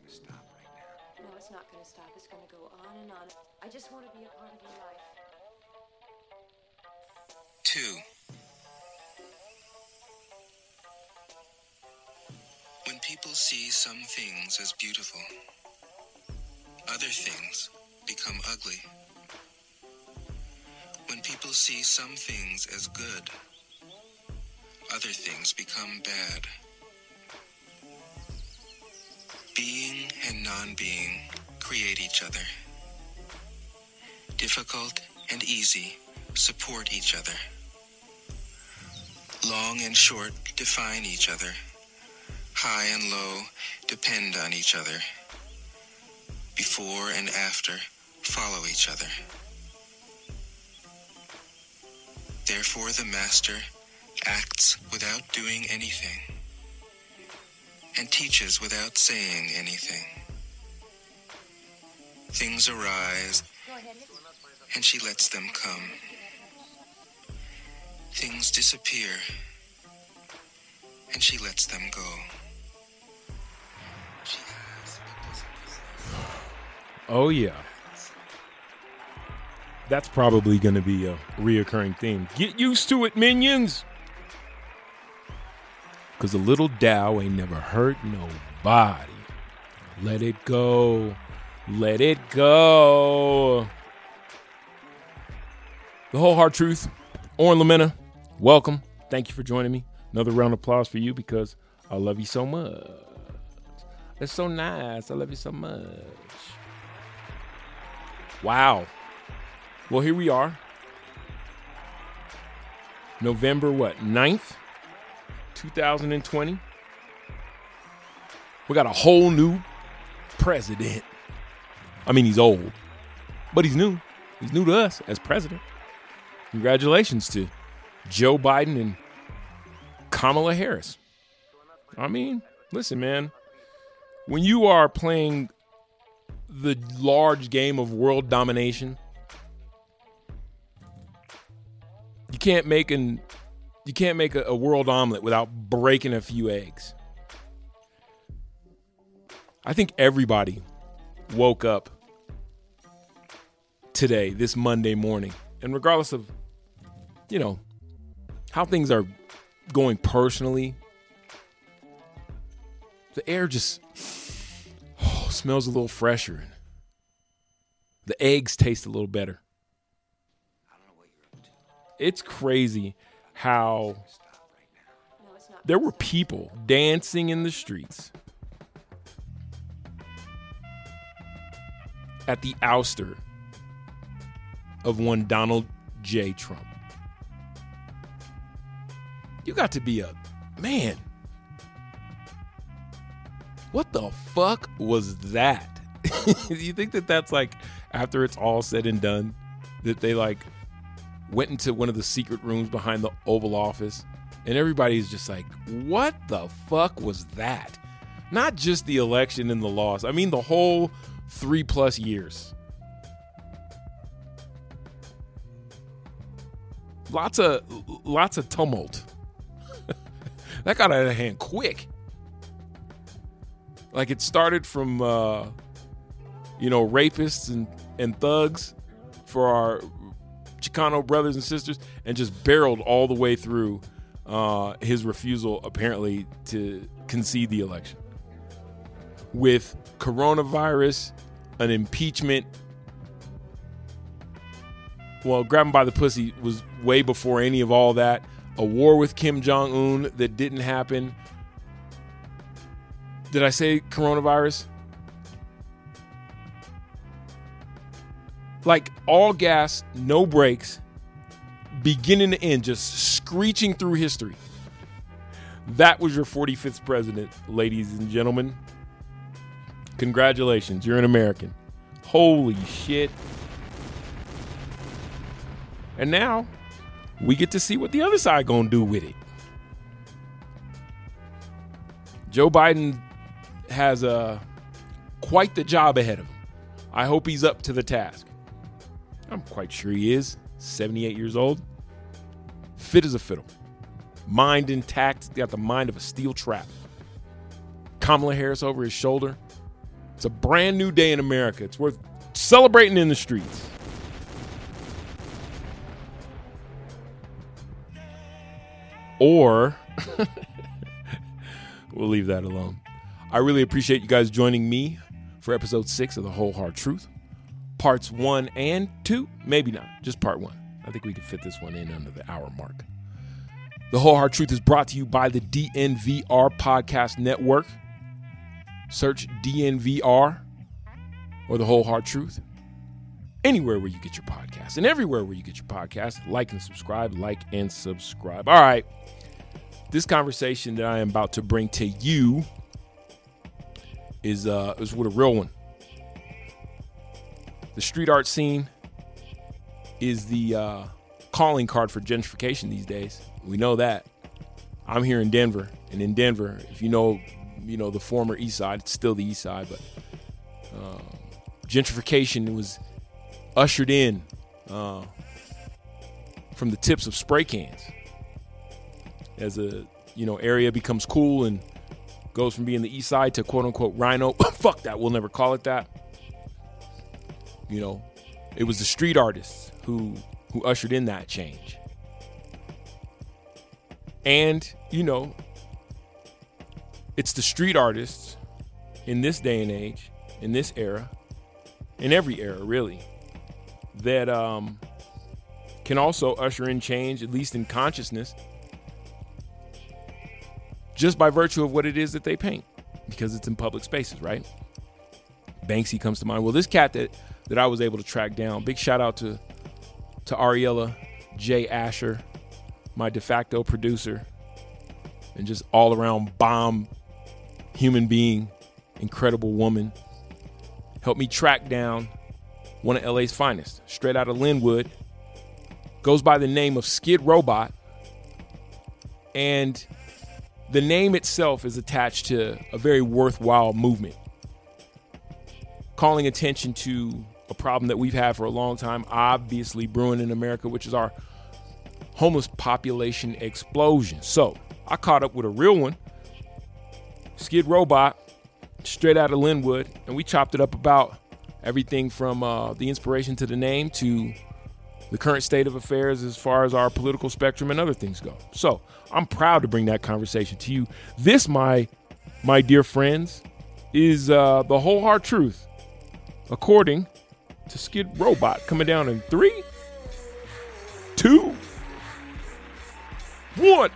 stop right now. No, it's not going to stop. It's going to go on and on. I just want to be a part of your life. 2. When people see some things as beautiful, other things become ugly. When people see some things as good, other things become bad. Being and non-being create each other. Difficult and easy support each other. Long and short define each other. High and low depend on each other. Before and after follow each other. Therefore the master acts without doing anything and teaches without saying anything. Things arise and she lets them come. Things disappear and she lets them go. Oh, yeah. That's probably going to be a reoccurring theme. Get used to it, minions. Because a little Dow ain't never hurt nobody. Let it go. Let it go. The Whole Hard Truth. Oren Lamena, welcome. Thank you for joining me. Another round of applause for you because I love you so much. It's so nice. I love you so much. Wow. Well, here we are. November, 9th, 2020. We got a whole new president. I mean, he's old, but he's new. He's new to us as president. Congratulations to Joe Biden and Kamala Harris. I mean, listen, man. When you are playing the large game of world domination, you can't make a world omelet without breaking a few eggs. I think everybody woke up today, this Monday morning, and regardless of, how things are going personally, the air just smells a little fresher. The eggs taste a little better. It's crazy how there were people dancing in the streets at the ouster of one Donald J. Trump. You got to be a man. What the fuck was that? You think that that's like, after it's all said and done, that they like went into one of the secret rooms behind the Oval Office and everybody's just like, what the fuck was that? Not just the election and the loss. I mean, the whole 3+ years. Lots of tumult. That got out of hand quick. Like it started from, rapists and thugs for our Chicano brothers and sisters, and just barreled all the way through his refusal, apparently, to concede the election. With coronavirus, an impeachment. Well, grab him by the pussy was way before any of all that. A war with Kim Jong-un that didn't happen. Did I say coronavirus? Like all gas, no brakes, beginning to end, just screeching through history. That was your 45th president, ladies and gentlemen. Congratulations, you're an American. Holy shit. And now, we get to see what the other side gonna do with it. Joe Biden has quite the job ahead of him. I hope he's up to the task. I'm quite sure he is. 78 years old. Fit as a fiddle. Mind intact. Got the mind of a steel trap. Kamala Harris over his shoulder. It's a brand new day in America. It's worth celebrating in the streets. Or we'll leave that alone. I really appreciate you guys joining me for episode 6 of The Whole Hard Truth. Parts 1 and 2, maybe not, just part 1. I think we can fit this one in under the hour mark. The Whole Hard Truth is brought to you by the DNVR Podcast Network. Search DNVR or The Whole Hard Truth anywhere where you get your podcasts, and everywhere where you get your podcasts. Like and subscribe. All right. This conversation that I am about to bring to you is with a real one. The street art scene is the calling card for gentrification these days. We know that. I'm here in Denver, and in Denver, if you know the former East Side, it's still the East Side, but gentrification was ushered in from the tips of spray cans. As a area becomes cool and goes from being the East Side to quote unquote Rhino. Fuck that, we'll never call it that. It was the street artists who ushered in that change. And it's the street artists in this day and age, in this era, in every era really, that can also usher in change, at least in consciousness, just by virtue of what it is that they paint, because it's in public spaces, right? Banksy comes to mind. Well, this cat that I was able to track down, big shout out to Ariella J. Asher, my de facto producer, and just all around bomb human being, incredible woman, helped me track down one of LA's finest, straight out of Linwood, goes by the name of Skid Robot, and the name itself is attached to a very worthwhile movement, calling attention to a problem that we've had for a long time, obviously brewing in America, which is our homeless population explosion. So I caught up with a real one, Skid Robot, straight out of Linwood, and we chopped it up about everything from the inspiration to the name to the current state of affairs as far as our political spectrum and other things go. So I'm proud to bring that conversation to you. This, my dear friends, is the whole hard truth, according to Skid Robot, coming down in 3, 2, 1.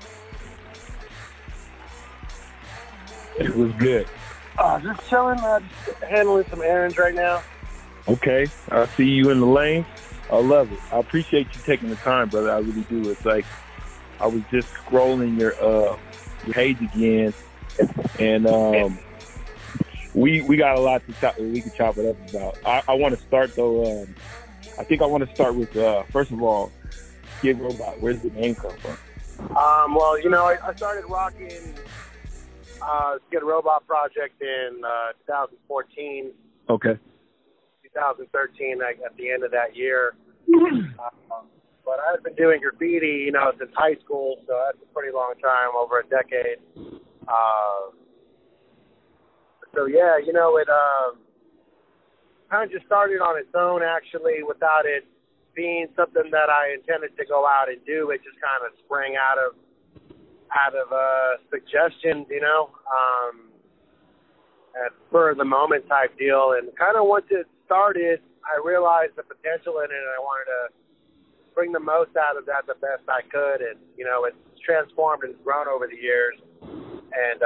It was good. Just chilling, just handling some errands right now. Okay, I see you in the lane. I love it. I appreciate you taking the time, brother. I really do. It's like I was just scrolling your page again, and we got a lot to chop. We can chop it up about. I want to start though. I think I want to start with first of all, Skid Robot. Where's the name come from? Well, I started rocking Skid Robot project in 2014. Okay. 2013 at the end of that year. But I've been doing graffiti, since high school, so that's a pretty long time, over a decade. So yeah, it kind of just started on its own, actually, without it being something that I intended to go out and do. It just kind of sprang out of suggestions, at spur of the moment type deal, and kind of once it started, I realized the potential in it, and I wanted to bring the most out of that the best I could, and it's transformed and grown over the years, and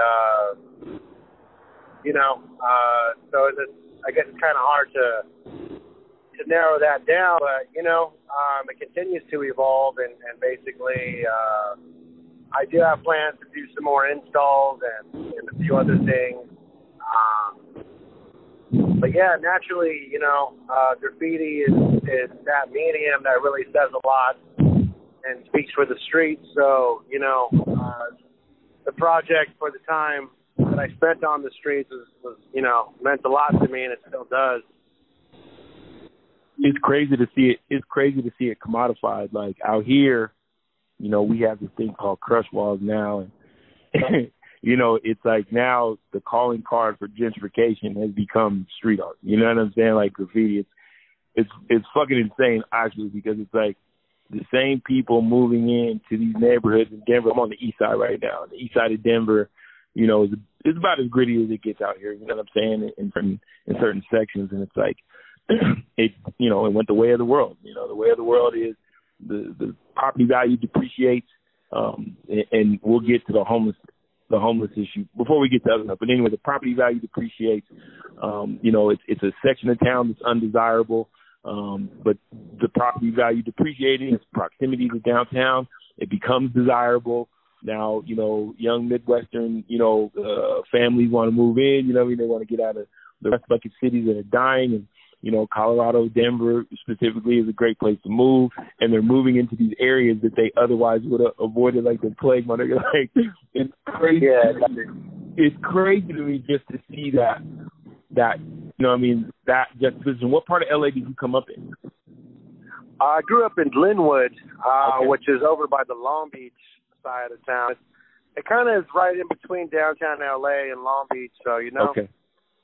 so I guess it's kind of hard to narrow that down, but it continues to evolve, and basically I do have plans to do some more installs and a few other things. But yeah, naturally, graffiti is that medium that really says a lot and speaks for the streets. So, the project for the time that I spent on the streets was meant a lot to me, and it still does. It's crazy to see it. It's crazy to see it commodified. Like out here, we have this thing called crush walls now, and you know, it's like now the calling card for gentrification has become street art. You know what I'm saying? Like graffiti. It's fucking insane actually, because it's like the same people moving into these neighborhoods in Denver. I'm on the east side right now. The east side of Denver, you know, it's about as gritty as it gets out here. You know what I'm saying? In certain sections, and it's like it went the way of the world. You know, the way of the world is the property value depreciates, and we'll get to the homeless issue before we get to other stuff. But anyway, the property value depreciates. You know, it's a section of town that's undesirable, but the property value depreciating, its proximity to downtown, it becomes desirable. Now, you know, young Midwestern, you know, families want to move in. You know, they want to get out of the rest bucket cities that are dying, and you know, Colorado, Denver specifically is a great place to move, and they're moving into these areas that they otherwise would have avoided like the plague. Like, it's crazy. Yeah. It's crazy to me just to see that, you know what I mean, that juxtaposition. What part of LA did you come up in? I grew up in Linwood, Okay. which is over by the Long Beach side of town. It kind of is right in between downtown LA and Long Beach, so, you know. Okay.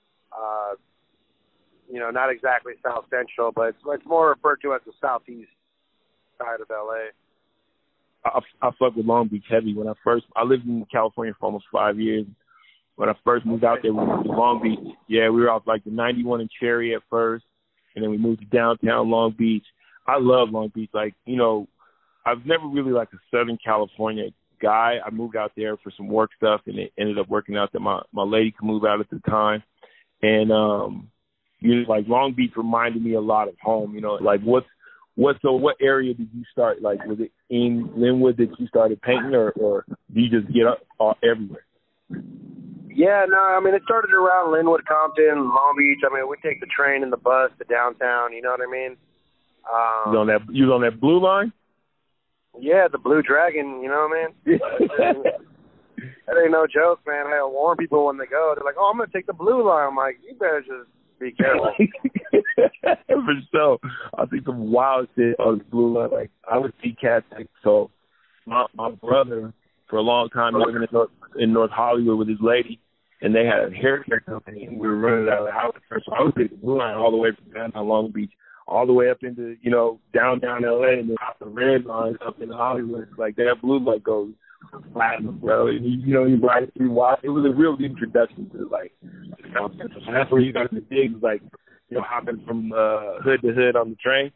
You know, not exactly South Central, but it's more referred to as the southeast side of LA. I fuck with Long Beach heavy. I lived in California for almost 5 years. When I first moved out there, we moved to Long Beach. Yeah, we were off like the 91 and Cherry at first, and then we moved to downtown Long Beach. I love Long Beach. Like, you know, I've never really like a Southern California guy. I moved out there for some work stuff, and it ended up working out that my lady could move out at the time. And, you know, like Long Beach reminded me a lot of home, you know, like what area did you start? Like, was it in Linwood that you started painting, or do you just get up everywhere? Yeah, no, I mean, it started around Linwood, Compton, Long Beach. I mean, we take the train and the bus to downtown, you know what I mean? You was on that blue line? Yeah, the Blue Dragon, you know what I mean? That ain't no joke, man. I warn people when they go. They're like, oh, I'm going to take the blue line. I'm like, you better just be careful. For sure. I think the wild shit on the blue line, like, I would see cats. Like, so my brother, for a long time, living in North Hollywood with his lady, and they had a hair care company, and we were running out of the house first. So I would take the blue line all the way from downtown Long Beach, all the way up into, you know, downtown LA, and then off the red line up in Hollywood. Like, that blue light goes platinum, bro. And you know, you ride it through. It was a real introduction to, like, South Central. So that's where you got the digs, like, you know, hopping from hood to hood on the train.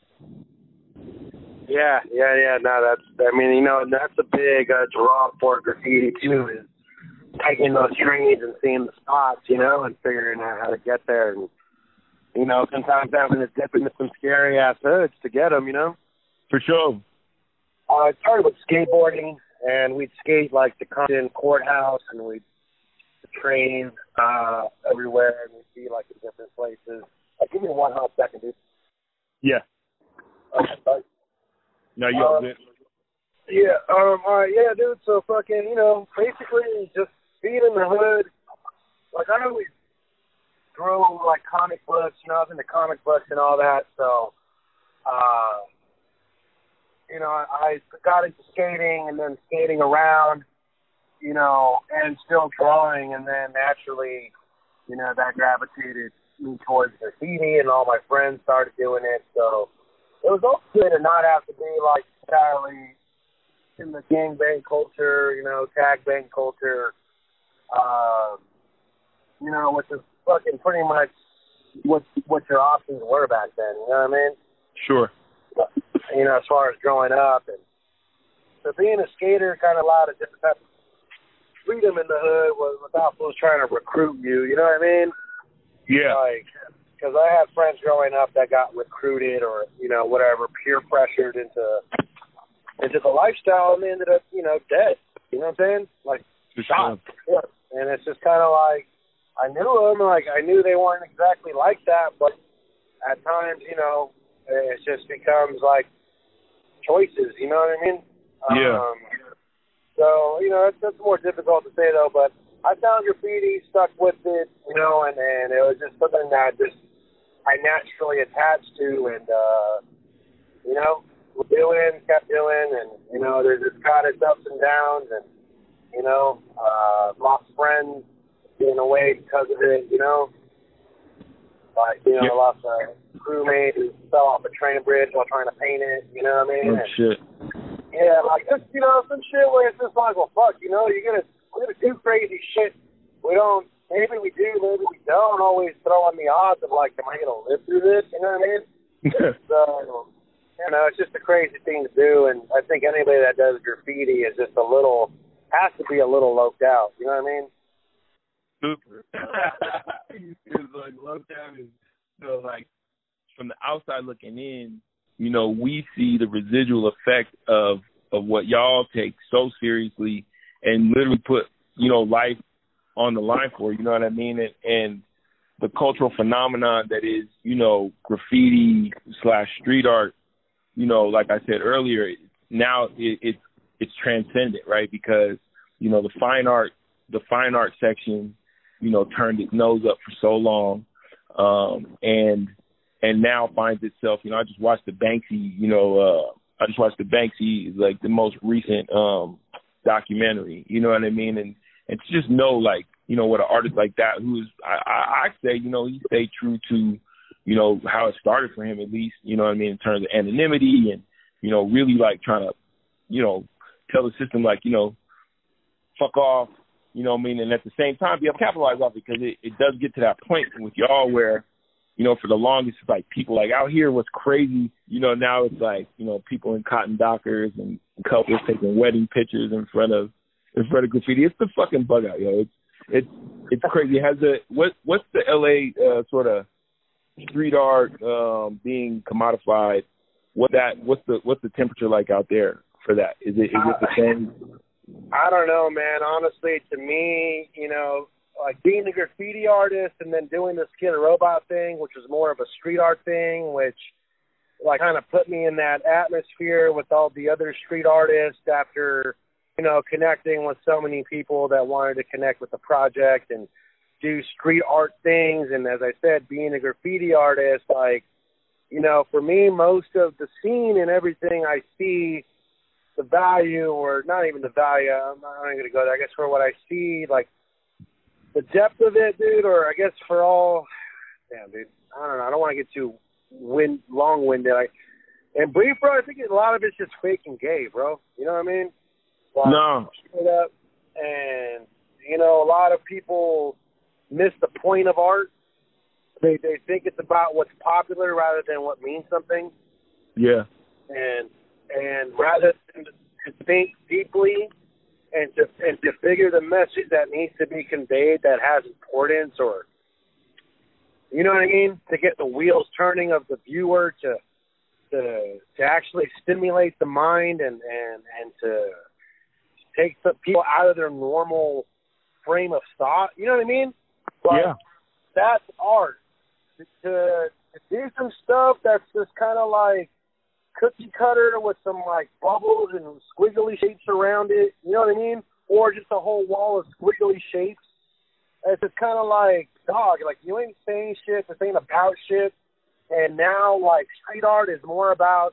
Yeah. No, I mean, you know, that's a big draw for graffiti, too, is taking those trains and seeing the spots, you know, and figuring out how to get there. And, you know, sometimes having to dip into some scary-ass hoods to get them, you know? For sure. I started with skateboarding, and we'd skate, like, the Compton Courthouse, and we'd train everywhere, and we'd be, like, in different places. Give me 1 hot second, dude. Yeah. Okay, sorry. No, you all good. Yeah, all right, yeah, dude, so fucking, you know, basically just being in the hood. Like, I always drew, like, comic books, you know, I was into comic books and all that, so, you know, I got into skating and then skating around, you know, and still drawing, and then naturally, you know, that gravitated me towards graffiti, and all my friends started doing it, so it was also good to not have to be, like, entirely in the gangbang culture, you know, tag bang culture, you know, which is fucking pretty much what your options were back then, you know what I mean? Sure. You know, as far as growing up. And so being a skater kind of allowed a different type of freedom in the hood without folks trying to recruit you, you know what I mean? Yeah. Like, because I had friends growing up that got recruited or, you know, whatever, peer pressured into the lifestyle, and they ended up, you know, dead. You know what I'm saying? Like, shot. Yeah. And it's just kind of like, I knew them, like, I knew they weren't exactly like that, but at times, you know, it just becomes like choices, you know what I mean? Yeah. So, you know, that's more difficult to say, though, but I found graffiti, stuck with it, you know, and it was just something that I naturally attached to, and, you know, kept doing, and, you know, there's just kind of ups and downs, and you know, lost friends getting away because of it, you know. Like, you know, I lost a crewmate who fell off a train bridge while trying to paint it, you know what I mean? Oh, shit. Yeah, like, just, you know, some shit where it's just like, well, fuck, you know, we're gonna do crazy shit. Maybe we do, maybe we don't always throw on the odds of, like, am I gonna live through this, you know what I mean? So, you know, it's just a crazy thing to do, and I think anybody that does graffiti is just has to be a little loped out, you know what I mean? Super. It's like loped out is, you know, like, from the outside looking in, you know, we see the residual effect of what y'all take so seriously and literally put, you know, life on the line for, you know what I mean? And the cultural phenomenon that is, you know, graffiti / street art, you know, like I said earlier, now it's transcendent, right? Because, you know, the fine art section, you know, turned its nose up for so long, and now finds itself, you know, I just watched the Banksy, like the most recent documentary, you know what I mean? And to just know, like, you know, what an artist like that, who's, I say, you know, he stayed true to, you know, how it started for him, at least, you know what I mean, in terms of anonymity and, you know, really like trying to, you know, tell the system, like, you know, fuck off, you know what I mean? And at the same time, be able to capitalize off it, because it does get to that point with y'all where, you know, for the longest, it's like people like out here, what's crazy, you know, now it's like, you know, people in cotton dockers and couples taking wedding pictures in front of graffiti. It's the fucking bug out, yo. It's crazy. It has what's the LA sort of street art being commodified? What's the temperature like out there for that? Is it the same? I don't know, man. Honestly, to me, you know, like being a graffiti artist and then doing the Skid Robot thing, which was more of a street art thing, which like kind of put me in that atmosphere with all the other street artists after, you know, connecting with so many people that wanted to connect with the project and do street art things. And as I said, being a graffiti artist, like, you know, for me, most of the scene and everything I see, the value, or not even the value, I'm not going to go there, I guess for what I see, like, the depth of it, dude, or I guess for all, damn, dude, I don't know, I don't want to get too long-winded. And brief, bro, I think a lot of it's just fake and gay, bro. You know what I mean? Like, no. Straight up. And, you know, a lot of people miss the point of art. They think it's about what's popular rather than what means something. Yeah. And rather than to think deeply and to figure the message that needs to be conveyed that has importance, or, you know what I mean, to get the wheels turning of the viewer to actually stimulate the mind and to take some people out of their normal frame of thought. You know what I mean? But yeah. That's art. To do some stuff that's just kind of like cookie cutter with some like bubbles and squiggly shapes around it, you know what I mean? Or just a whole wall of squiggly shapes. It's just kind of like, dog, like you ain't saying shit, this ain't about shit. And now like street art is more about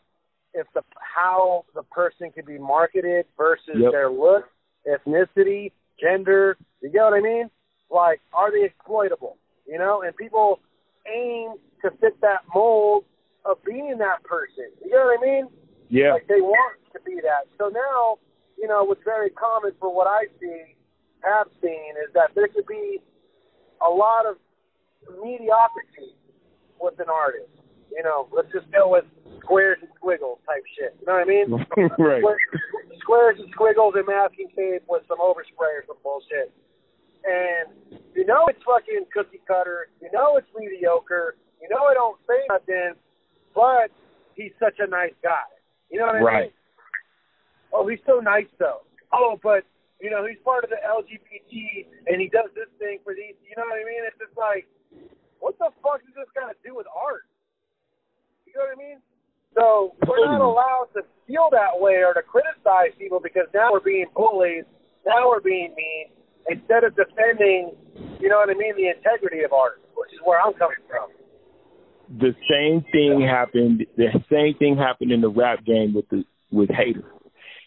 how the person can be marketed versus their look, ethnicity, gender. You get what I mean? Like, are they exploitable? You know, and people aim to fit that mold of being that person. You know what I mean? Yeah. Like, they want to be that. So now, you know, what's very common for what I have seen, is that there could be a lot of mediocrity with an artist. You know, let's just go with squares and squiggles type shit. You know what I mean? Right. Squares and squiggles and masking tape with some overspray or some bullshit. And you know it's fucking cookie cutter. You know it's mediocre. You know I don't say nothing, but he's such a nice guy. You know what I mean? Oh, he's so nice though. Oh, but you know he's part of the LGBT and he does this thing for these. You know what I mean? It's just like, what the fuck does this got to do with art? You know what I mean? So we're not allowed to feel that way or to criticize people because now we're being bullied. Now we're being mean. Instead of defending, you know what I mean, the integrity of art, which is where I'm coming from. The same thing happened in the rap game with Hater.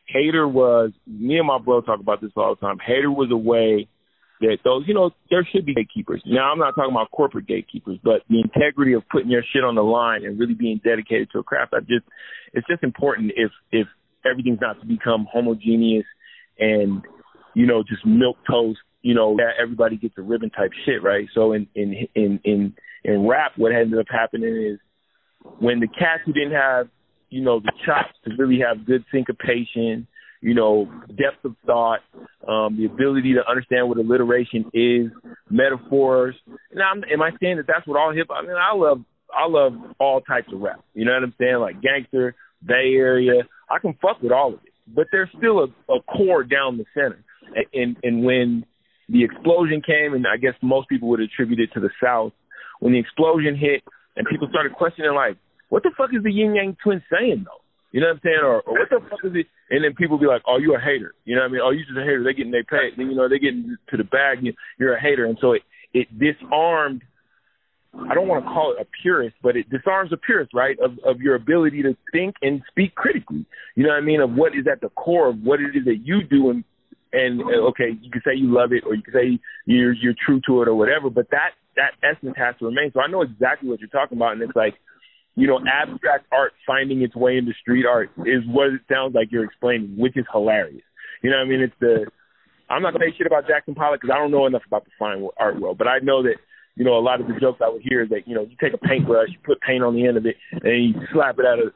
Hater was, me and my bro talk about this all the time. Hater was a way that those, there should be gatekeepers. Now, I'm not talking about corporate gatekeepers, but the integrity of putting your shit on the line and really being dedicated to a craft. It's just important if everything's not to become homogeneous and, just milquetoast, that everybody gets a ribbon type shit, right? So in rap, what ended up happening is when the cats who didn't have, the chops to really have good syncopation, depth of thought, the ability to understand what alliteration is, metaphors. Now, am I saying that that's what all hip hop? I mean, I love all types of rap. You know what I'm saying? Like gangster, Bay Area. I can fuck with all of it, but there's still a core down the center. And when the explosion came, and I guess most people would attribute it to the South, when the explosion hit and people started questioning, like, what the fuck is the Yin Yang Twins saying, though? You know what I'm saying? Or what the fuck is it? And then people be like, oh, you a hater. You know what I mean? Oh, you just a hater. They getting their pay. Then, they getting to the bag. You're a hater. And so it disarmed, I don't want to call it a purist, but it disarms a purist, right, of your ability to think and speak critically. You know what I mean? Of what is at the core of what it is that you do. And okay, you can say you love it, or you can say you're true to it or whatever, but that essence has to remain. So I know exactly what you're talking about. And it's like, abstract art finding its way into street art is what it sounds like you're explaining, which is hilarious. You know what I mean? I'm not going to say shit about Jackson Pollock because I don't know enough about the fine art world, but I know that, a lot of the jokes I would hear is that, you take a paintbrush, you put paint on the end of it, and you slap it at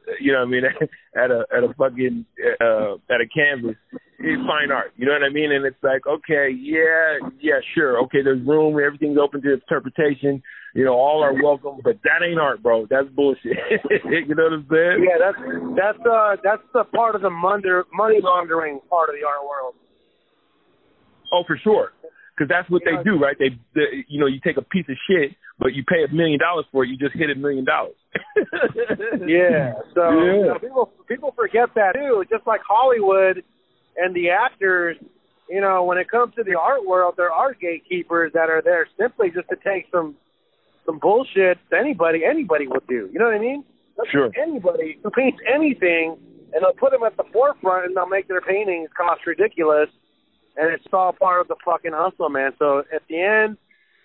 a fucking, at a canvas. It's fine art. You know what I mean? And it's like, okay, yeah, sure. Okay, there's room. Everything's open to interpretation. All are welcome, but that ain't art, bro. That's bullshit. You know what I'm saying? Yeah, that's the part of the money laundering part of the art world. Oh, for sure. Because that's what they do, right? You take a piece of shit, but you pay $1 million for it. You just hit $1 million. Yeah. So people forget that too. Just like Hollywood and the actors, when it comes to the art world, there are gatekeepers that are there simply just to take some bullshit that anybody would do. You know what I mean? Sure. Anybody who paints anything, and they'll put them at the forefront, and they'll make their paintings cost ridiculous. And it's all part of the fucking hustle, man. So at the end,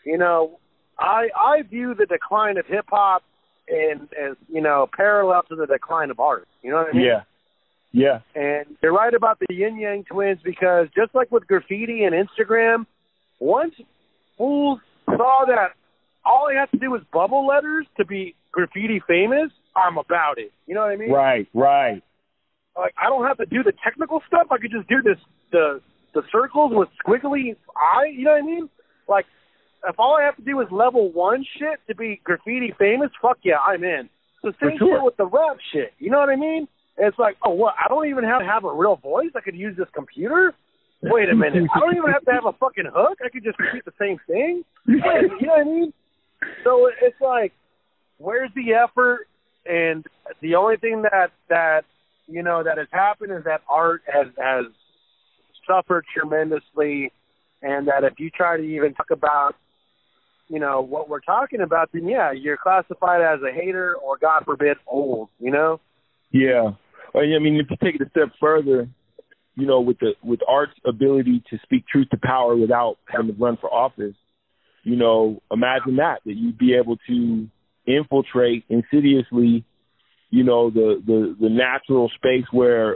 I view the decline of hip hop as parallel to the decline of art. You know what I mean? Yeah. And you're right about the Yin Yang Twins, because just like with graffiti and Instagram, once fools saw that all I have to do is bubble letters to be graffiti famous, I'm about it. You know what I mean? Right. Like, I don't have to do the technical stuff. I could just do the circles with squiggly eye, you know what I mean? Like, if all I have to do is level 1 shit to be graffiti famous, fuck yeah, I'm in. The same shit with the rap shit, you know what I mean? It's like, oh, what, I don't even have to have a real voice? I could use this computer? Wait a minute, I don't even have to have a fucking hook? I could just repeat the same thing? Wait, you know what I mean? So it's like, where's the effort? And the only thing that has happened is that art has suffered tremendously, and that if you try to even talk about, what we're talking about, then yeah, you're classified as a hater or, God forbid, old, Yeah. I mean, if you take it a step further, with art's ability to speak truth to power without having to run for office, imagine that you'd be able to infiltrate insidiously the natural space where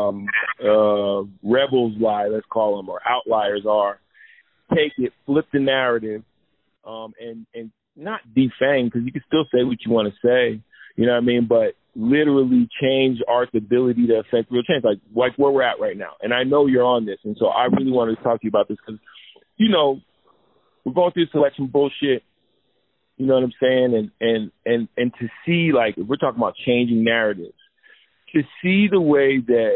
rebels lie, let's call them, or outliers are, take it, flip the narrative, and not defang, because you can still say what you want to say, you know what I mean, but literally change art's ability to affect real change, like where we're at right now. And I know you're on this, and so I really wanted to talk to you about this because, we're going through selection bullshit. You know what I'm saying? And to see, like, if we're talking about changing narratives, to see the way that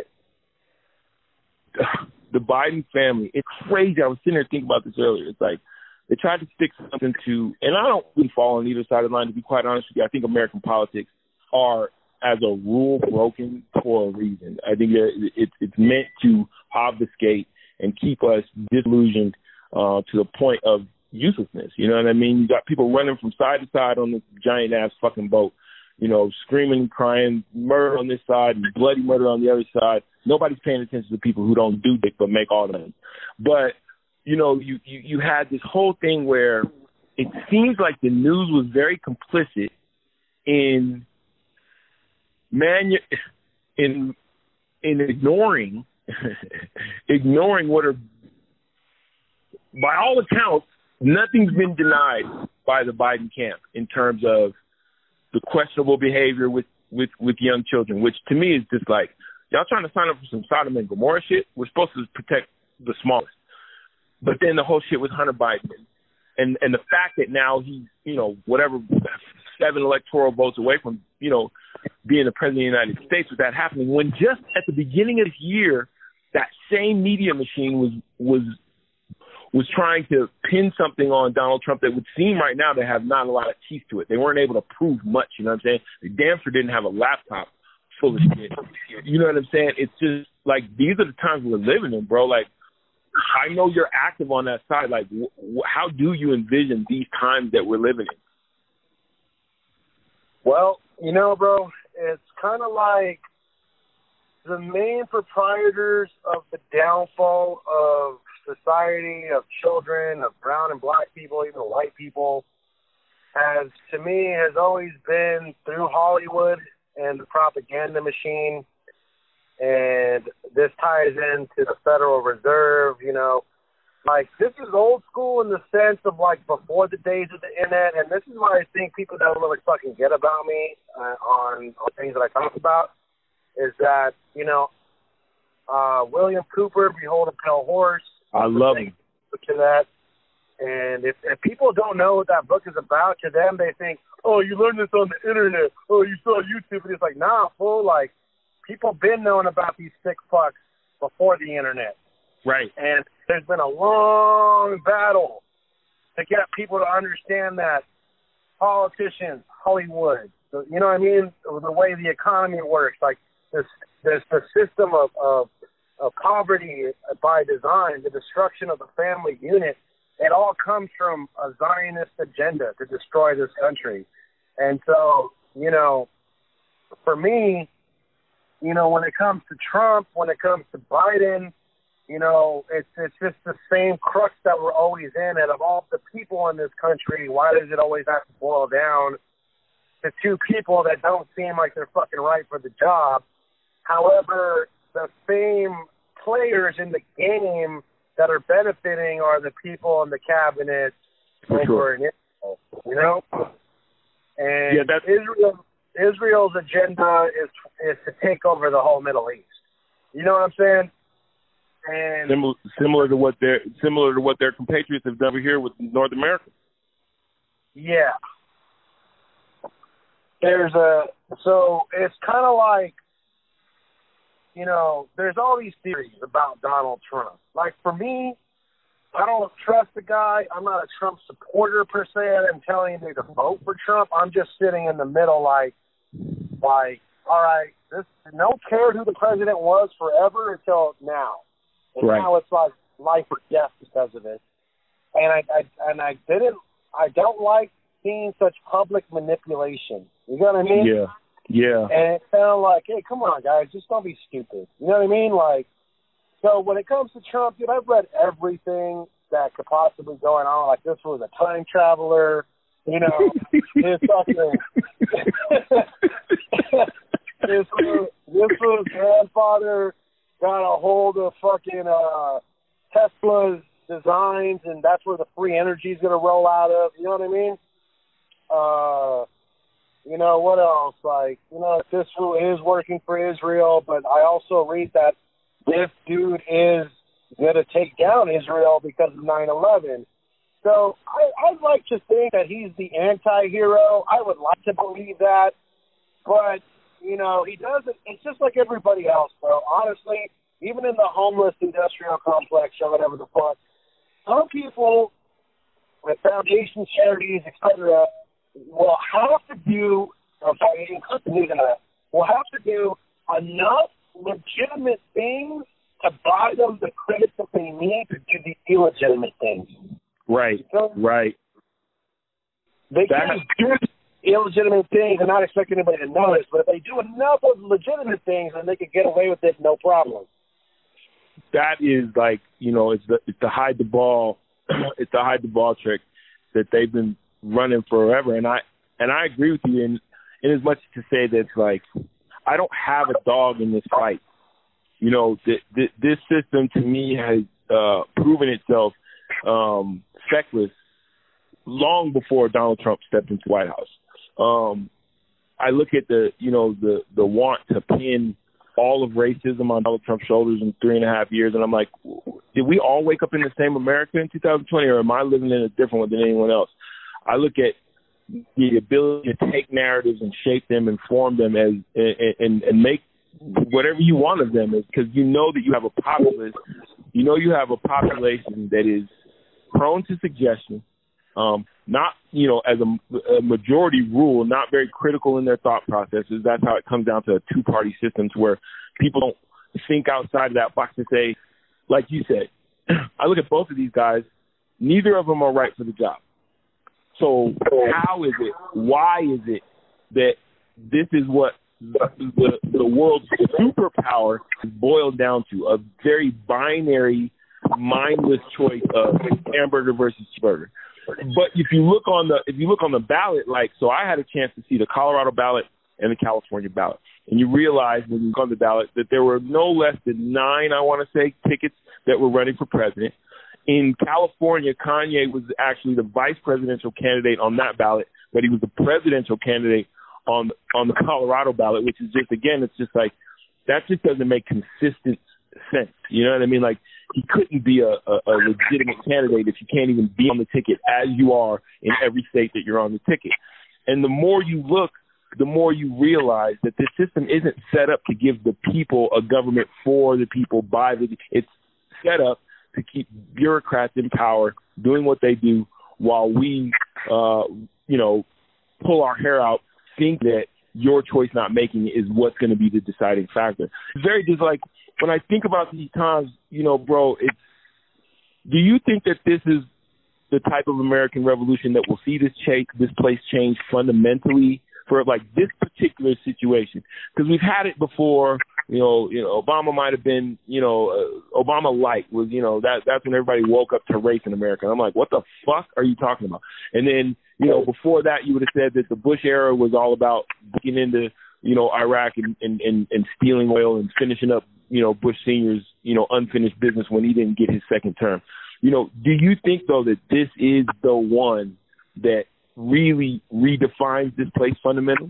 the Biden family, it's crazy. I was sitting there thinking about this earlier. It's like they tried to stick something to, and I don't really fall on either side of the line, to be quite honest with you. I think American politics are, as a rule, broken for a reason. I think it's meant to obfuscate and keep us disillusioned to the point of uselessness. You know what I mean? You got people running from side to side on this giant ass fucking boat, screaming and crying, murder on this side and bloody murder on the other side. Nobody's paying attention to people who don't do dick but make all the money. But, you had this whole thing where it seems like the news was very complicit in ignoring what are, by all accounts, nothing's been denied by the Biden camp in terms of the questionable behavior with young children, which to me is just like, y'all trying to sign up for some Sodom and Gomorrah shit? We're supposed to protect the smallest. But then the whole shit with Hunter Biden and the fact that now he's, 7 electoral votes away from, being the president of the United States with that happening, when just at the beginning of this year, that same media machine was trying to pin something on Donald Trump that would seem right now to have not a lot of teeth to it. They weren't able to prove much, you know what I'm saying? They damn sure didn't have a laptop full of shit. You know what I'm saying? It's just like, these are the times we're living in, bro. Like, I know you're active on that side. Like, how do you envision these times that we're living in? Well, bro, it's kind of like the main proprietors of the downfall of society, of children, of brown and black people, even white people, has always been through Hollywood and the propaganda machine. And this ties into the Federal Reserve, Like, this is old school in the sense of, like, before the days of the internet, and this is why I think people don't really fucking get about me on things that I talk about, is that, William Cooper, Behold a Pale Horse. I love him. To that. And if people don't know what that book is about, to them they think, oh, you learned this on the internet. Oh, you saw YouTube. And it's like, nah, fool. Like, people been knowing about these sick fucks before the internet. Right. And there's been a long battle to get people to understand that politicians, Hollywood, you know what I mean? The way the economy works, like there's the system of poverty by design, the destruction of the family unit, it all comes from a Zionist agenda to destroy this country. And so, for me, when it comes to Trump, when it comes to Biden, it's just the same crux that we're always in. And of all the people in this country, why does it always have to boil down to two people that don't seem like they're fucking right for the job? However, the same players in the game that are benefiting are the people in the cabinet over in Israel, And yeah, Israel's agenda is to take over the whole Middle East. You know what I'm saying? And similar to what their compatriots have done over here with North America. Yeah. So it's kind of like, there's all these theories about Donald Trump. Like, for me, I don't trust the guy. I'm not a Trump supporter per se. I'm telling you to vote for Trump. I'm just sitting in the middle like, all right, no care who the president was forever until now. And right. Now it's like life or death because of it. And I don't like seeing such public manipulation. You know what I mean? Yeah. Yeah. And it sounded like, hey, come on, guys, just don't be stupid. You know what I mean? Like, so when it comes to Trump, dude, I've read everything that could possibly go on. Like, this was a time traveler. His fucking this was grandfather got a hold of fucking Tesla's designs, and that's where the free energy is going to roll out of. You know what I mean? What else? Like, this is working for Israel, but I also read that this dude is going to take down Israel because of 9/11. So I'd like to think that he's the anti-hero. I would like to believe that. But, he doesn't. It's just like everybody else, bro. Honestly, even in the homeless industrial complex or whatever the fuck, some people with foundations, charities, etc., will have to do, will have to do enough legitimate things to buy them the credit that they need to do the illegitimate things. Right, so right. They can't do illegitimate things and not expect anybody to notice. But if they do enough of legitimate things, then they can get away with it, no problem. That is like, it's the hide the ball, it's the hide the ball trick that they've been running forever. And I agree with you in as much to say that, like, I don't have a dog in this fight. This system to me has proven itself feckless long before Donald Trump stepped into the White House. I look at the want to pin all of racism on Donald Trump's shoulders in 3.5 years, and I'm like, did we all wake up in the same America in 2020, or am I living in a different one than anyone else? I look at the ability to take narratives and shape them and form them and make whatever you want of them, because you know that you have a populace, you have a population that is prone to suggestion, not, as a majority rule, not very critical in their thought processes. That's how it comes down to a two-party system, to where people don't think outside of that box and say, like you said, I look at both of these guys, neither of them are right for the job. So how is it, why is it that this is what the world's superpower is boiled down to, a very binary, mindless choice of hamburger versus cheeseburger? But if you look on the ballot, like, so I had a chance to see the Colorado ballot and the California ballot, and you realize when you look on the ballot that there were no less than 9, I want to say, tickets that were running for president. In California, Kanye was actually the vice presidential candidate on that ballot, but he was the presidential candidate on the Colorado ballot, which is just, again, it's just like, that just doesn't make consistent sense. You know what I mean? Like, he couldn't be a legitimate candidate if you can't even be on the ticket as you are in every state that you're on the ticket. And the more you look, the more you realize that this system isn't set up to give the people a government for the people, by the, it's set up to keep bureaucrats in power doing what they do while we, pull our hair out, think that your choice not making is what's going to be the deciding factor. It's very just like, when I think about these times, bro, do you think that this is the type of American revolution that will see this place change fundamentally for, like, this particular situation? Because we've had it before. Obama might have been, Obama light was, that's when everybody woke up to race in America. And I'm like, what the fuck are you talking about? And then, before that, you would have said that the Bush era was all about getting into, Iraq and stealing oil and finishing up, Bush Sr.'s, unfinished business when he didn't get his second term. Do you think, though, that this is the one that really redefines this place fundamentally?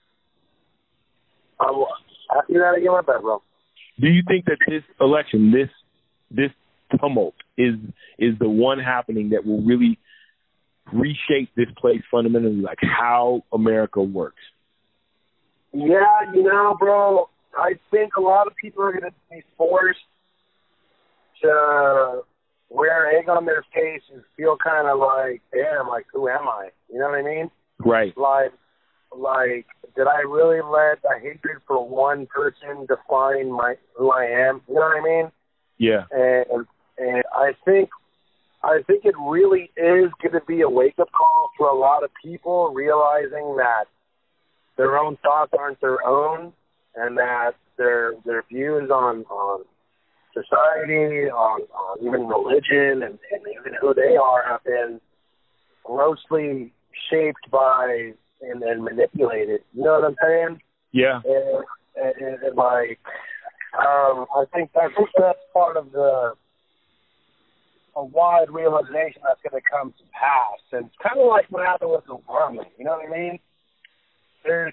Ask me that again, my bad, bro. Do you think that this election, this tumult, is the one happening that will really reshape this place fundamentally, like how America works? Yeah, bro, I think a lot of people are going to be forced to wear egg on their face and feel kind of like, damn, like, who am I? You know what I mean? Right. Like, did I really let a hatred for one person define who I am? You know what I mean? Yeah. And I think it really is going to be a wake-up call for a lot of people, realizing that their own thoughts aren't their own, and that their views on society, on even religion, and even who they are have been grossly shaped by and manipulated. You know what I'm saying? Yeah. And like, I think that's part of a wide realization that's going to come to pass. And it's kind of like what happened with Obama. You know what I mean? There's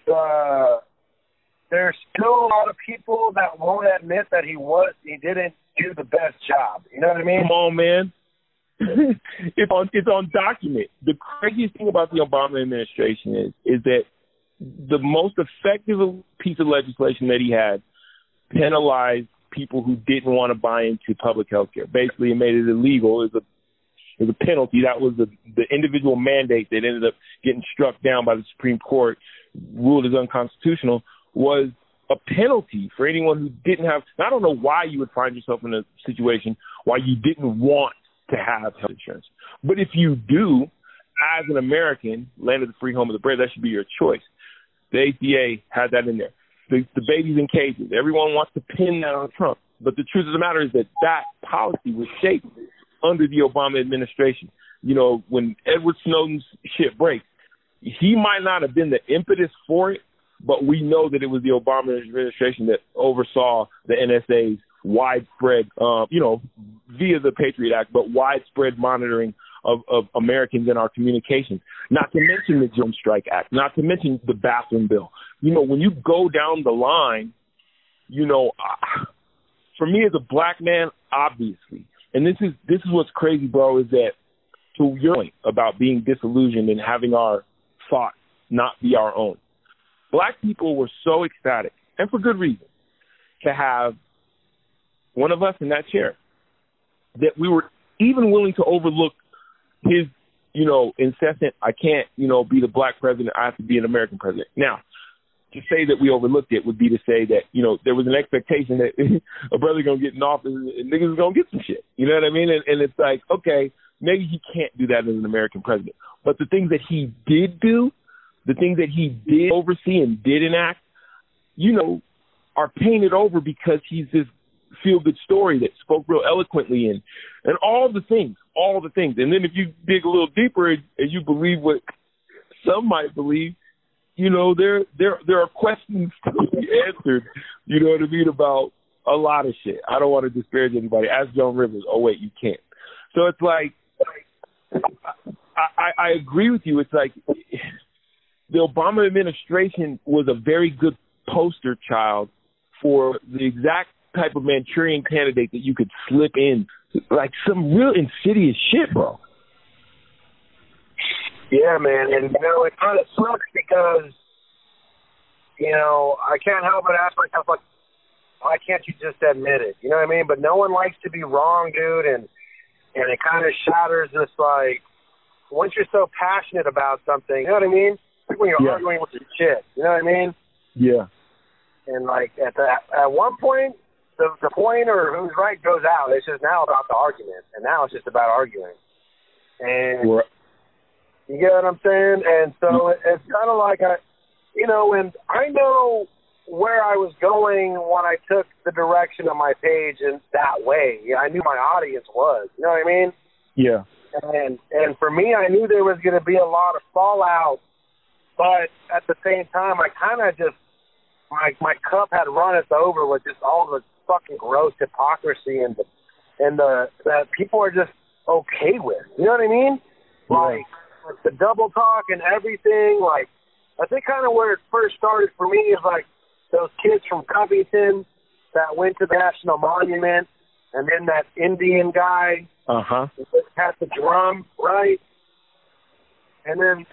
still a lot of people that won't admit that he didn't do the best job. You know what I mean? Come on, man. It's on document. The craziest thing about the Obama administration is that the most effective piece of legislation that he had penalized people who didn't want to buy into public health care. Basically, it made it illegal. It was a penalty. That was the individual mandate that ended up getting struck down by the Supreme Court, ruled as unconstitutional, was a penalty for anyone who didn't have. I don't know why you would find yourself in a situation why you didn't want to have health insurance. But if you do, as an American, land of the free, home of the brave, that should be your choice. The ACA had that in there. The babies in cages. Everyone wants to pin that on Trump. But the truth of the matter is that policy was shaped under the Obama administration. When Edward Snowden's shit breaks, he might not have been the impetus for it, but we know that it was the Obama administration that oversaw the NSA's widespread, via the Patriot Act, but widespread monitoring of Americans in our communications. Not to mention the Drone Strike Act, not to mention the bathroom bill. When you go down the line, for me as a black man, obviously, and this is what's crazy, bro, is that to your point about being disillusioned and having our thoughts not be our own. Black people were so ecstatic, and for good reason, to have one of us in that chair, that we were even willing to overlook his, incessant, I can't, be the black president, I have to be an American president. Now, to say that we overlooked it would be to say that, there was an expectation that a brother going to get in office and niggas is going to get some shit. You know what I mean? And it's like, okay, maybe he can't do that as an American president. But the things that he did do, the things that he did oversee and did enact, are painted over because he's this feel-good story that spoke real eloquently and all the things. And then if you dig a little deeper and you believe what some might believe, there are questions to be answered, you know what I mean, about a lot of shit. I don't want to disparage anybody. Ask Joan Rivers. Oh, wait, you can't. So it's like, I agree with you. It's like the Obama administration was a very good poster child for the exact type of Manchurian candidate that you could slip in, like some real insidious shit, bro. Yeah, man, and it kind of sucks because, I can't help but ask myself, like, why can't you just admit it? You know what I mean? But no one likes to be wrong, dude, and it kind of shatters this, like, once you're so passionate about something, you know what I mean? Like when you're arguing with your chick, you know what I mean? Yeah. And, like, at one point, the point or who's right goes out. It's just now about the argument, and now it's just about arguing. And you get what I'm saying? And so it's kind of like, and I know where I was going when I took the direction of my page in that way. I knew my audience was. You know what I mean? Yeah. And for me, I knew there was going to be a lot of fallout, but at the same time, I kind of just, my cup had runneth over with just all the fucking gross hypocrisy and the that people are just okay with. You know what I mean? Yeah. Like the double talk and everything. Like, I think kind of where it first started for me is like those kids from Covington that went to the National Monument, and then that Indian guy had the drum, right? And then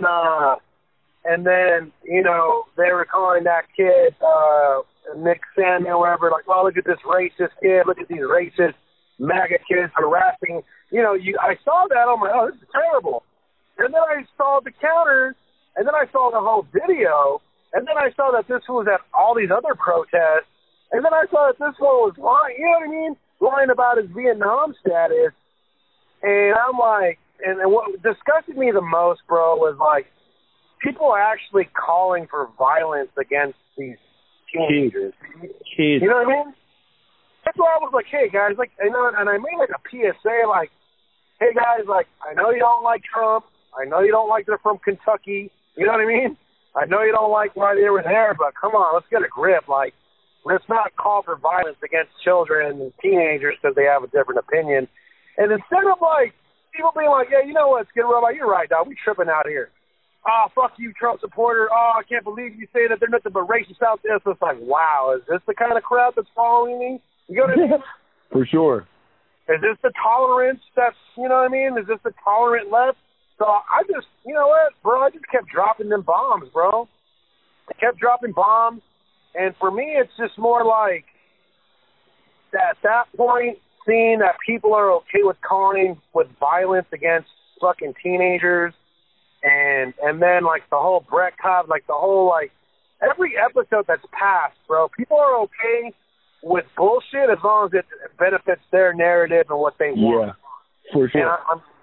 they were calling that kid Nick Samuel, whatever, like, oh, look at this racist kid, look at these racist MAGA kids harassing. I saw that, I'm like, oh, this is terrible. And then I saw the counter, and then I saw the whole video, and then I saw that this was at all these other protests, and then I saw that this one was lying, you know what I mean? Lying about his Vietnam status. And I'm like, and what disgusted me the most, bro, was like, people are actually calling for violence against these teenagers. Kids. You know what I mean? That's why I was like, hey, guys, like, and I made like a PSA, like, hey, guys, like, I know you don't like Trump. I know you don't like they're from Kentucky. You know what I mean? I know you don't like why they were there, but come on, let's get a grip. Like, let's not call for violence against children and teenagers because they have a different opinion. And instead of, like, people being like, yeah, you know what, Skid Row, you're right, dog, we tripping out here. Oh, fuck you, Trump supporter. Oh, I can't believe you say that they're nothing but racist out there. So it's like, wow, is this the kind of crowd that's following me? You know what I mean? For sure. Is this the tolerance that's, you know what I mean? Is this the tolerant left? So I just, you know what, bro, I just kept dropping them bombs, bro. I kept dropping bombs. And for me, it's just more like, at that point, seeing that people are okay with calling with violence against fucking teenagers. And then, like, the whole Brett Cobb, like, the whole, like, every episode that's passed, bro, people are okay with bullshit as long as it benefits their narrative and what they want. Yeah, for sure.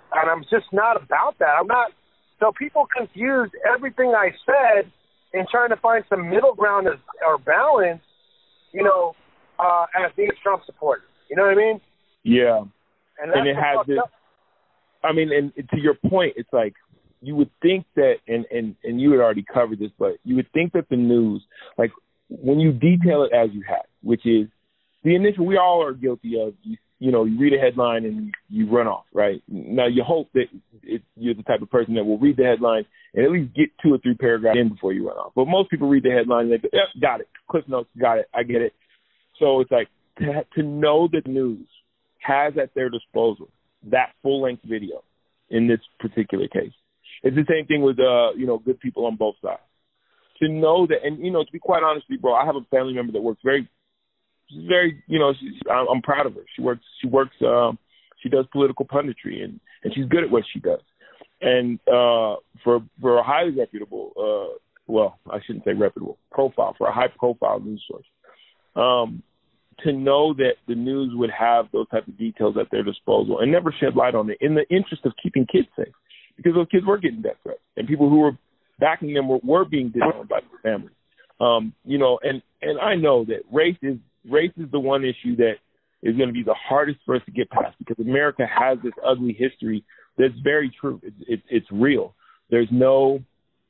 And I'm just not about that. I'm not. So people confuse everything I said in trying to find some middle ground or balance, you know, as being a Trump supporter. You know what I mean? Yeah. And that's it has this. I mean, and to your point, it's like you would think that, and you had already covered this, but you would think that the news, like when you detail it as you have, which is the initial, we all are guilty of, you know, you read a headline and you run off, right? Now, you hope that you're the type of person that will read the headline and at least get 2 or 3 paragraphs in before you run off. But most people read the headline and they go, yep, got it. Cliff notes, got it. I get it. So it's like to know that news has at their disposal that full-length video in this particular case. It's the same thing with, you know, good people on both sides. To know that, and, you know, to be quite honest with you, bro, I have a family member that works very, you know, I'm proud of her. She does political punditry, and she's good at what she does. And for a highly reputable, well, I shouldn't say reputable, profile, for a high-profile news source, to know that the news would have those type of details at their disposal and never shed light on it in the interest of keeping kids safe, because those kids were getting death threats, and people who were backing them were being disowned by their families. You know, and I know that race is the one issue that is going to be the hardest for us to get past, because America has this ugly history that's very true. It's real. There's no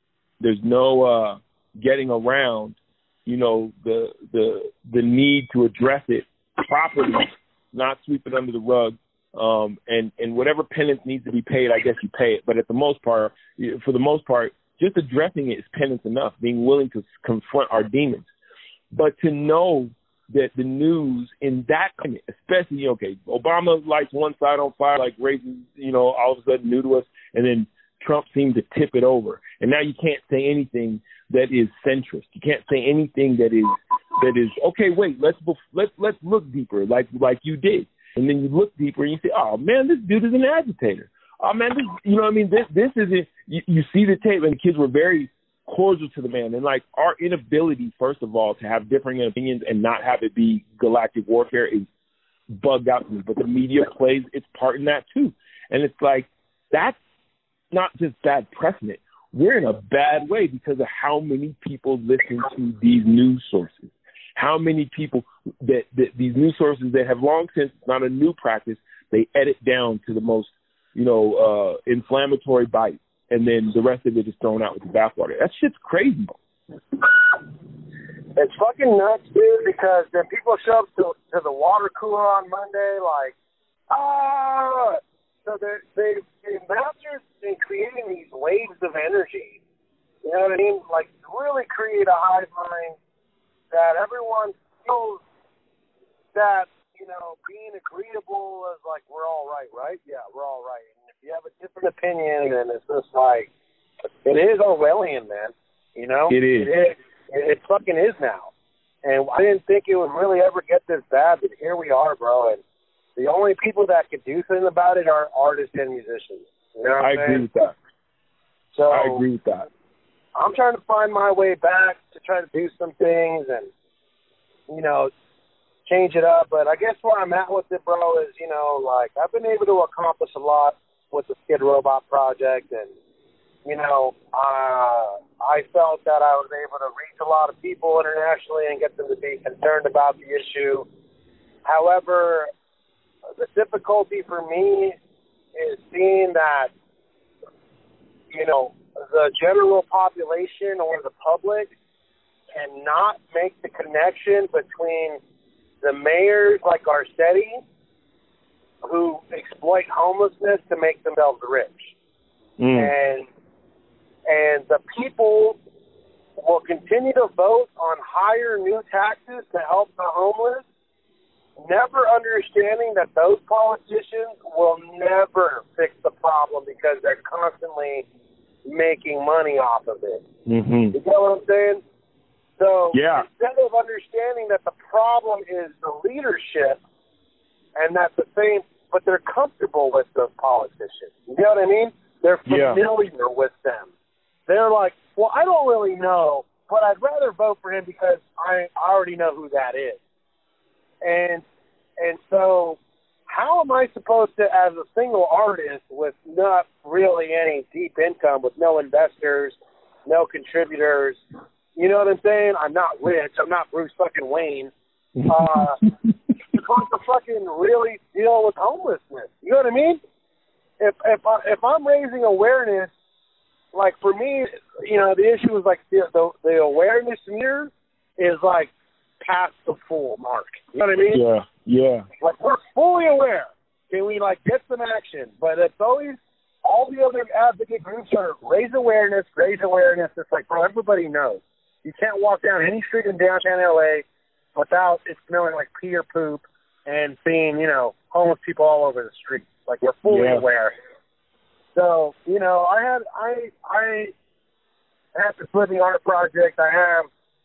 getting around, you know, the need to address it properly, not sweep it under the rug. And whatever penance needs to be paid, I guess you pay it. But for the most part, just addressing it is penance enough, being willing to confront our demons. But to know that the news in that kind, especially, okay, Obama lights one side on fire, like race is, you know, all of a sudden new to us, and then Trump seemed to tip it over. And now you can't say anything that is centrist. You can't say anything that is okay, wait, let's look deeper, like you did. And then you look deeper and you say, oh man, this dude is an agitator. Oh man, this, you know what I mean? This isn't, you see the tape, and the kids were very cordial to the man. And like our inability, first of all, to have differing opinions and not have it be galactic warfare is bugged out to me. But the media plays its part in that too. And it's like, that's not just bad precedent. We're in a bad way because of how many people listen to these news sources. How many people that these news sources that have long since, it's not a new practice, they edit down to the most, you know, inflammatory bite, and then the rest of it is thrown out with the bathwater. That shit's crazy. It's fucking nuts, dude, because then people show up to the water cooler on Monday like, so they're masters in creating these waves of energy. You know what I mean? Like, really create a hive mind that everyone feels that, you know, being agreeable is like, we're all right, right? Yeah, we're all right. And if you have a different opinion, then it's just like, it is Orwellian, man. You know? It is. It fucking is now. And I didn't think it would really ever get this bad, but here we are, bro. And the only people that could do something about it are artists and musicians. You know what I'm saying? Agree with that. So I agree with that. I'm trying to find my way back to try to do some things and, you know, change it up. But I guess where I'm at with it, bro, is, you know, like, I've been able to accomplish a lot with the Skid Robot project. And, you know, I felt that I was able to reach a lot of people internationally and get them to be concerned about the issue. However, the difficulty for me is seeing that, you know, the general population or the public cannot make the connection between the mayors like Garcetti, who exploit homelessness to make themselves rich. And the people will continue to vote on higher new taxes to help the homeless, never understanding that those politicians will never fix the problem because they're constantly making money off of it. Mm-hmm. You know what I'm saying? So instead of understanding that the problem is the leadership, and that's the same, but they're comfortable with those politicians. You know what I mean? They're familiar with them. They're like, well, I don't really know, but I'd rather vote for him because I already know who that is. And so how am I supposed to, as a single artist with not really any deep income, with no investors, no contributors, you know what I'm saying? I'm not rich. I'm not Bruce fucking Wayne. Supposed to fucking really deal with homelessness. You know what I mean? If I'm raising awareness, like for me, you know, the issue is like the awareness meter is like past the full mark. You know what I mean? Yeah. Like we're fully aware. Can we like get some action? But it's always all the other advocate groups are raise awareness. It's like, bro, everybody knows. You can't walk down any street in downtown LA without it smelling like pee or poop and seeing, you know, homeless people all over the street. Like we're fully aware. So, you know, I have this living art project. I have,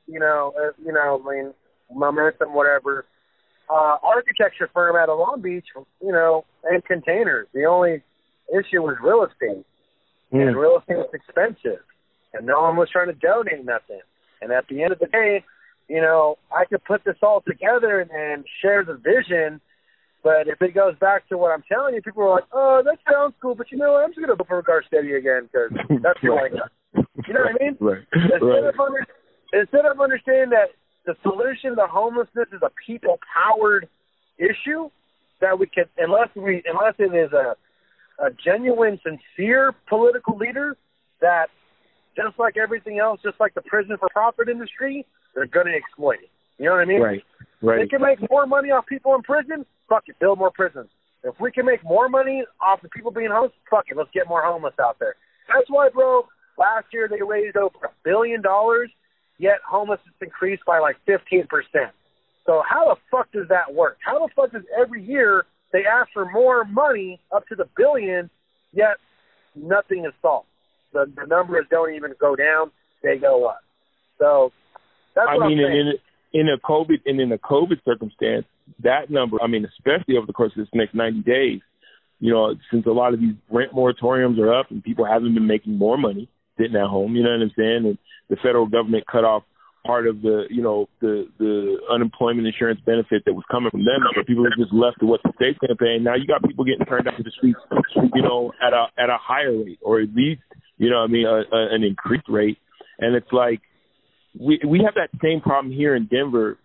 I mean, momentum, whatever. Architecture firm out of Long Beach, you know, and containers. The only issue was real estate. And real estate was expensive. And no one was trying to donate nothing. And at the end of the day, you know, I could put this all together and share the vision. But if it goes back to what I'm telling you, people are like, oh, that sounds cool, but you know what? I'm just going to vote for Garcetti again because that's what I got. You know what I mean? Right. Instead of understanding that the solution to homelessness is a people-powered issue, that we can, unless it is a genuine, sincere political leader that, just like everything else, just like the prison for profit industry, they're going to exploit it. You know what I mean? Right. They can make more money off people in prison, fuck it, build more prisons. If we can make more money off the people being homeless, fuck it, let's get more homeless out there. That's why, bro, last year they raised over $1 billion, yet homelessness increased by like 15%. So how the fuck does that work? How the fuck does every year they ask for more money up to the billion, yet nothing is solved? The numbers don't even go down, they go up. So that's what I'm saying. In a COVID circumstance, that number, I mean, especially over the course of this next 90 days, you know, since a lot of these rent moratoriums are up and people haven't been making more money sitting at home, you know what I'm saying? And the federal government cut off part of the, you know, the unemployment insurance benefit that was coming from them. So people are just left to what the state's going to pay. And now you got people getting turned out to the streets, you know, at a higher rate, or at least, you know what I mean, an increased rate. And it's like, we have that same problem here in Denver,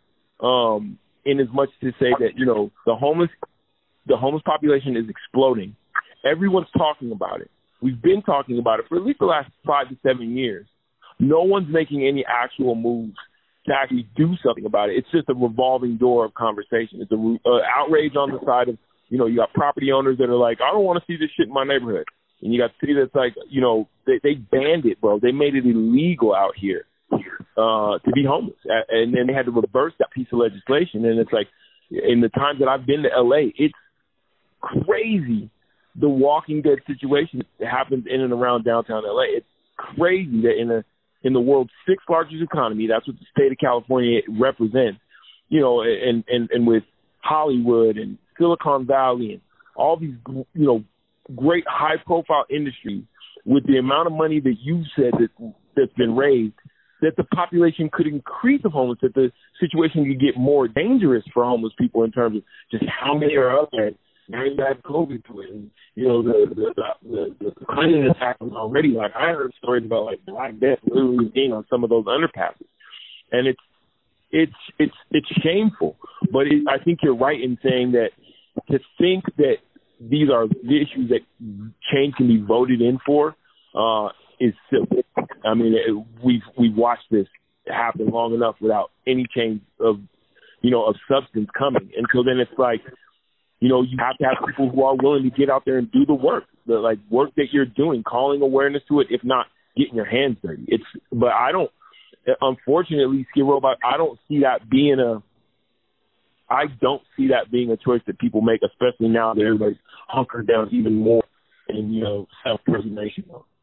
in as much to say that, you know, the homeless population is exploding. Everyone's talking about it. We've been talking about it for at least the last 5 to 7 years. No one's making any actual moves to actually do something about it. It's just a revolving door of conversation. It's an outrage on the side of, you know, you got property owners that are like, I don't want to see this shit in my neighborhood. And you got the city that's like, you know, they banned it, bro. They made it illegal out here to be homeless. And then they had to reverse that piece of legislation. And it's like, in the times that I've been to LA, it's crazy the Walking Dead situation that happens in and around downtown LA. It's crazy that in the world's 6th largest economy, that's what the state of California represents, you know, and with Hollywood and Silicon Valley and all these, you know, great high-profile industries, with the amount of money that you said that's been raised, that the population could increase of homeless, that the situation could get more dangerous for homeless people in terms of just how many are up there. Now you add COVID to it, and you know the cleanliness happens already. Like I heard stories about like Black Death literally being on some of those underpasses, and it's shameful. But I think you're right in saying that to think that these are the issues that change can be voted in for is silly. I mean, we've watched this happen long enough without any change of substance coming. And so then it's like, you know, you have to have people who are willing to get out there and do the work that you're doing, calling awareness to it, if not getting your hands dirty. But I don't, unfortunately, Skid Robot, I don't see that being a choice that people make, especially now that everybody's hunkered down even more in, you know, self-preservation.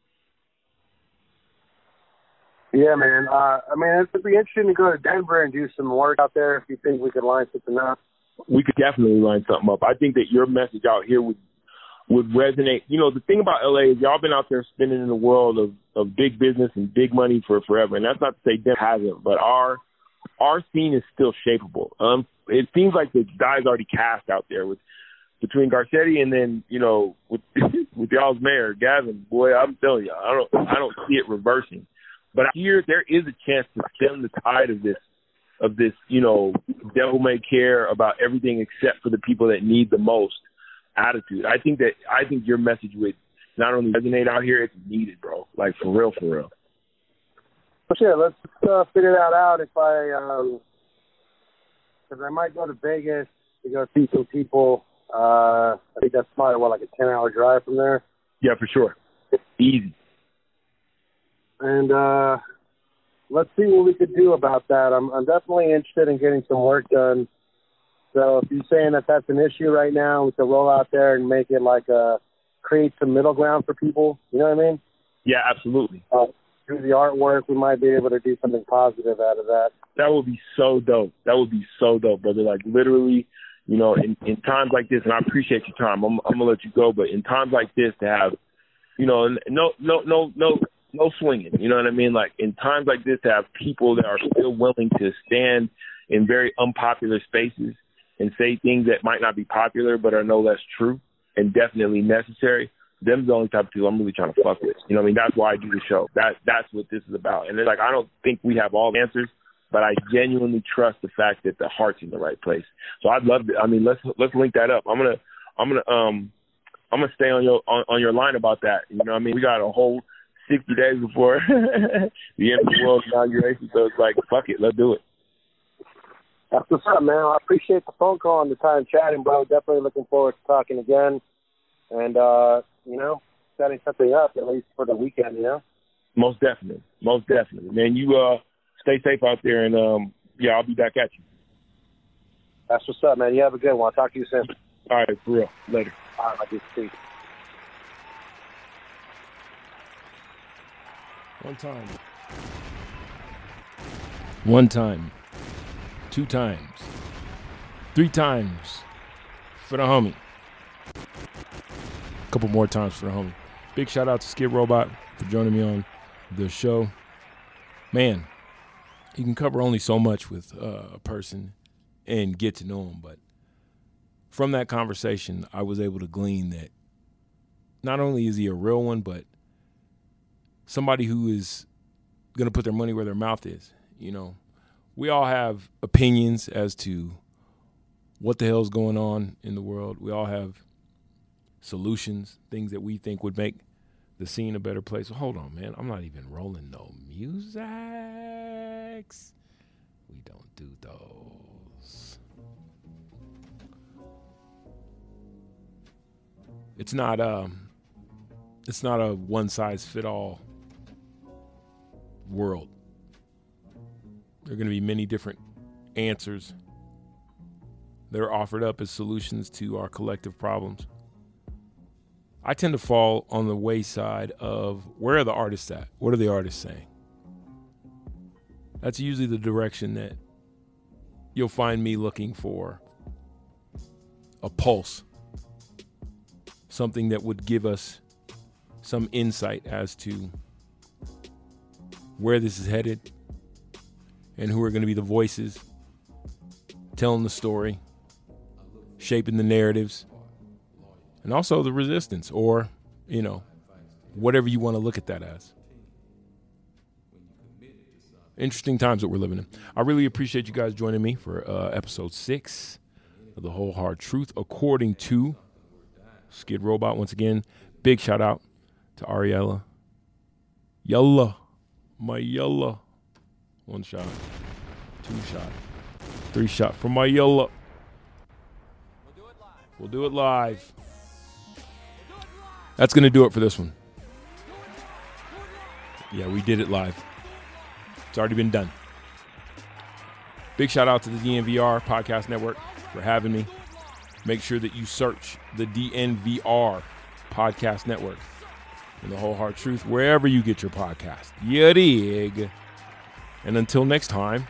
Yeah, man. I mean, it'd be interesting to go to Denver and do some work out there if you think we could line something up. We could definitely line something up. I think that your message out here would resonate. You know, the thing about LA is y'all been out there spinning in the world of big business and big money for forever. And that's not to say Denver hasn't, but our scene is still shapeable. It seems like the die's already cast out there with between Garcetti and then, with with y'all's mayor, Gavin, boy, I'm telling you, I don't see it reversing. But here there is a chance to stem the tide of this, devil may care about everything except for the people that need the most attitude. I think your message would not only resonate out here, it's needed, bro. Like, for real, for real. Well, sure, let's figure that out. Because I might go to Vegas to go see some people. I think that's probably, like a 10-hour drive from there? Yeah, for sure. Easy. And let's see what we could do about that. I'm definitely interested in getting some work done. So if you're saying that that's an issue right now, we could roll out there and make it create some middle ground for people. You know what I mean? Yeah, absolutely. Through the artwork, we might be able to do something positive out of that. That would be so dope. That would be so dope, brother. Like, literally, in times like this, and I appreciate your time. I'm gonna let you go, but in times like this, to have, no swinging. You know what I mean? Like, in times like this, to have people that are still willing to stand in very unpopular spaces and say things that might not be popular but are no less true and definitely necessary. Them's the only type of people I'm really trying to fuck with. You know what I mean? That's why I do the show. That's what this is about. And it's like, I don't think we have all the answers, but I genuinely trust the fact that the heart's in the right place. So I'd love to. I mean, let's link that up. I'm gonna stay on your line about that. You know what I mean? We got a whole 60 days before the end of the world inauguration, so it's like, fuck it, let's do it. That's what's up, man. I appreciate the phone call and the time chatting, bro. Definitely looking forward to talking again. And, setting something up, at least for the weekend, Most definitely. Man, you stay safe out there, and, I'll be back at you. That's what's up, man. You have a good one. I'll talk to you soon. All right, for real. Later. All right, my good to see you. One time. 2 times. 3 times for the homie. A couple more times for the homie. Big shout out to Skid Robot for joining me on the show. Man, you can cover only so much with a person and get to know them, but from that conversation, I was able to glean that not only is he a real one, but somebody who is going to put their money where their mouth is. We all have opinions as to what the hell's going on in the world. We all have solutions, things that we think would make the scene a better place. Well, hold on, man. I'm not even rolling no musics. We don't do those. It's not a one-size-fit-all world. There are going to be many different answers that are offered up as solutions to our collective problems. I tend to fall on the wayside of, where are the artists at? What are the artists saying? That's usually the direction that you'll find me looking for a pulse, something that would give us some insight as to where this is headed and who are going to be the voices telling the story, shaping the narratives, and also the resistance, or, whatever you want to look at that as. Interesting times that we're living in. I really appreciate you guys joining me for episode 6 of The Whole Hard Truth, according to Skid Robot. Once again, big shout out to Ariella. Yalla. My Yalla. 1 shot. 2 shot. 3 shot for my Yalla. We'll do it live. That's going to do it for this one. Yeah, we did it live. It's already been done. Big shout out to the DNVR Podcast Network for having me. Make sure that you search the DNVR Podcast Network and The Whole Hard Truth wherever you get your podcast. You dig? And until next time,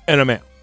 And I'm out.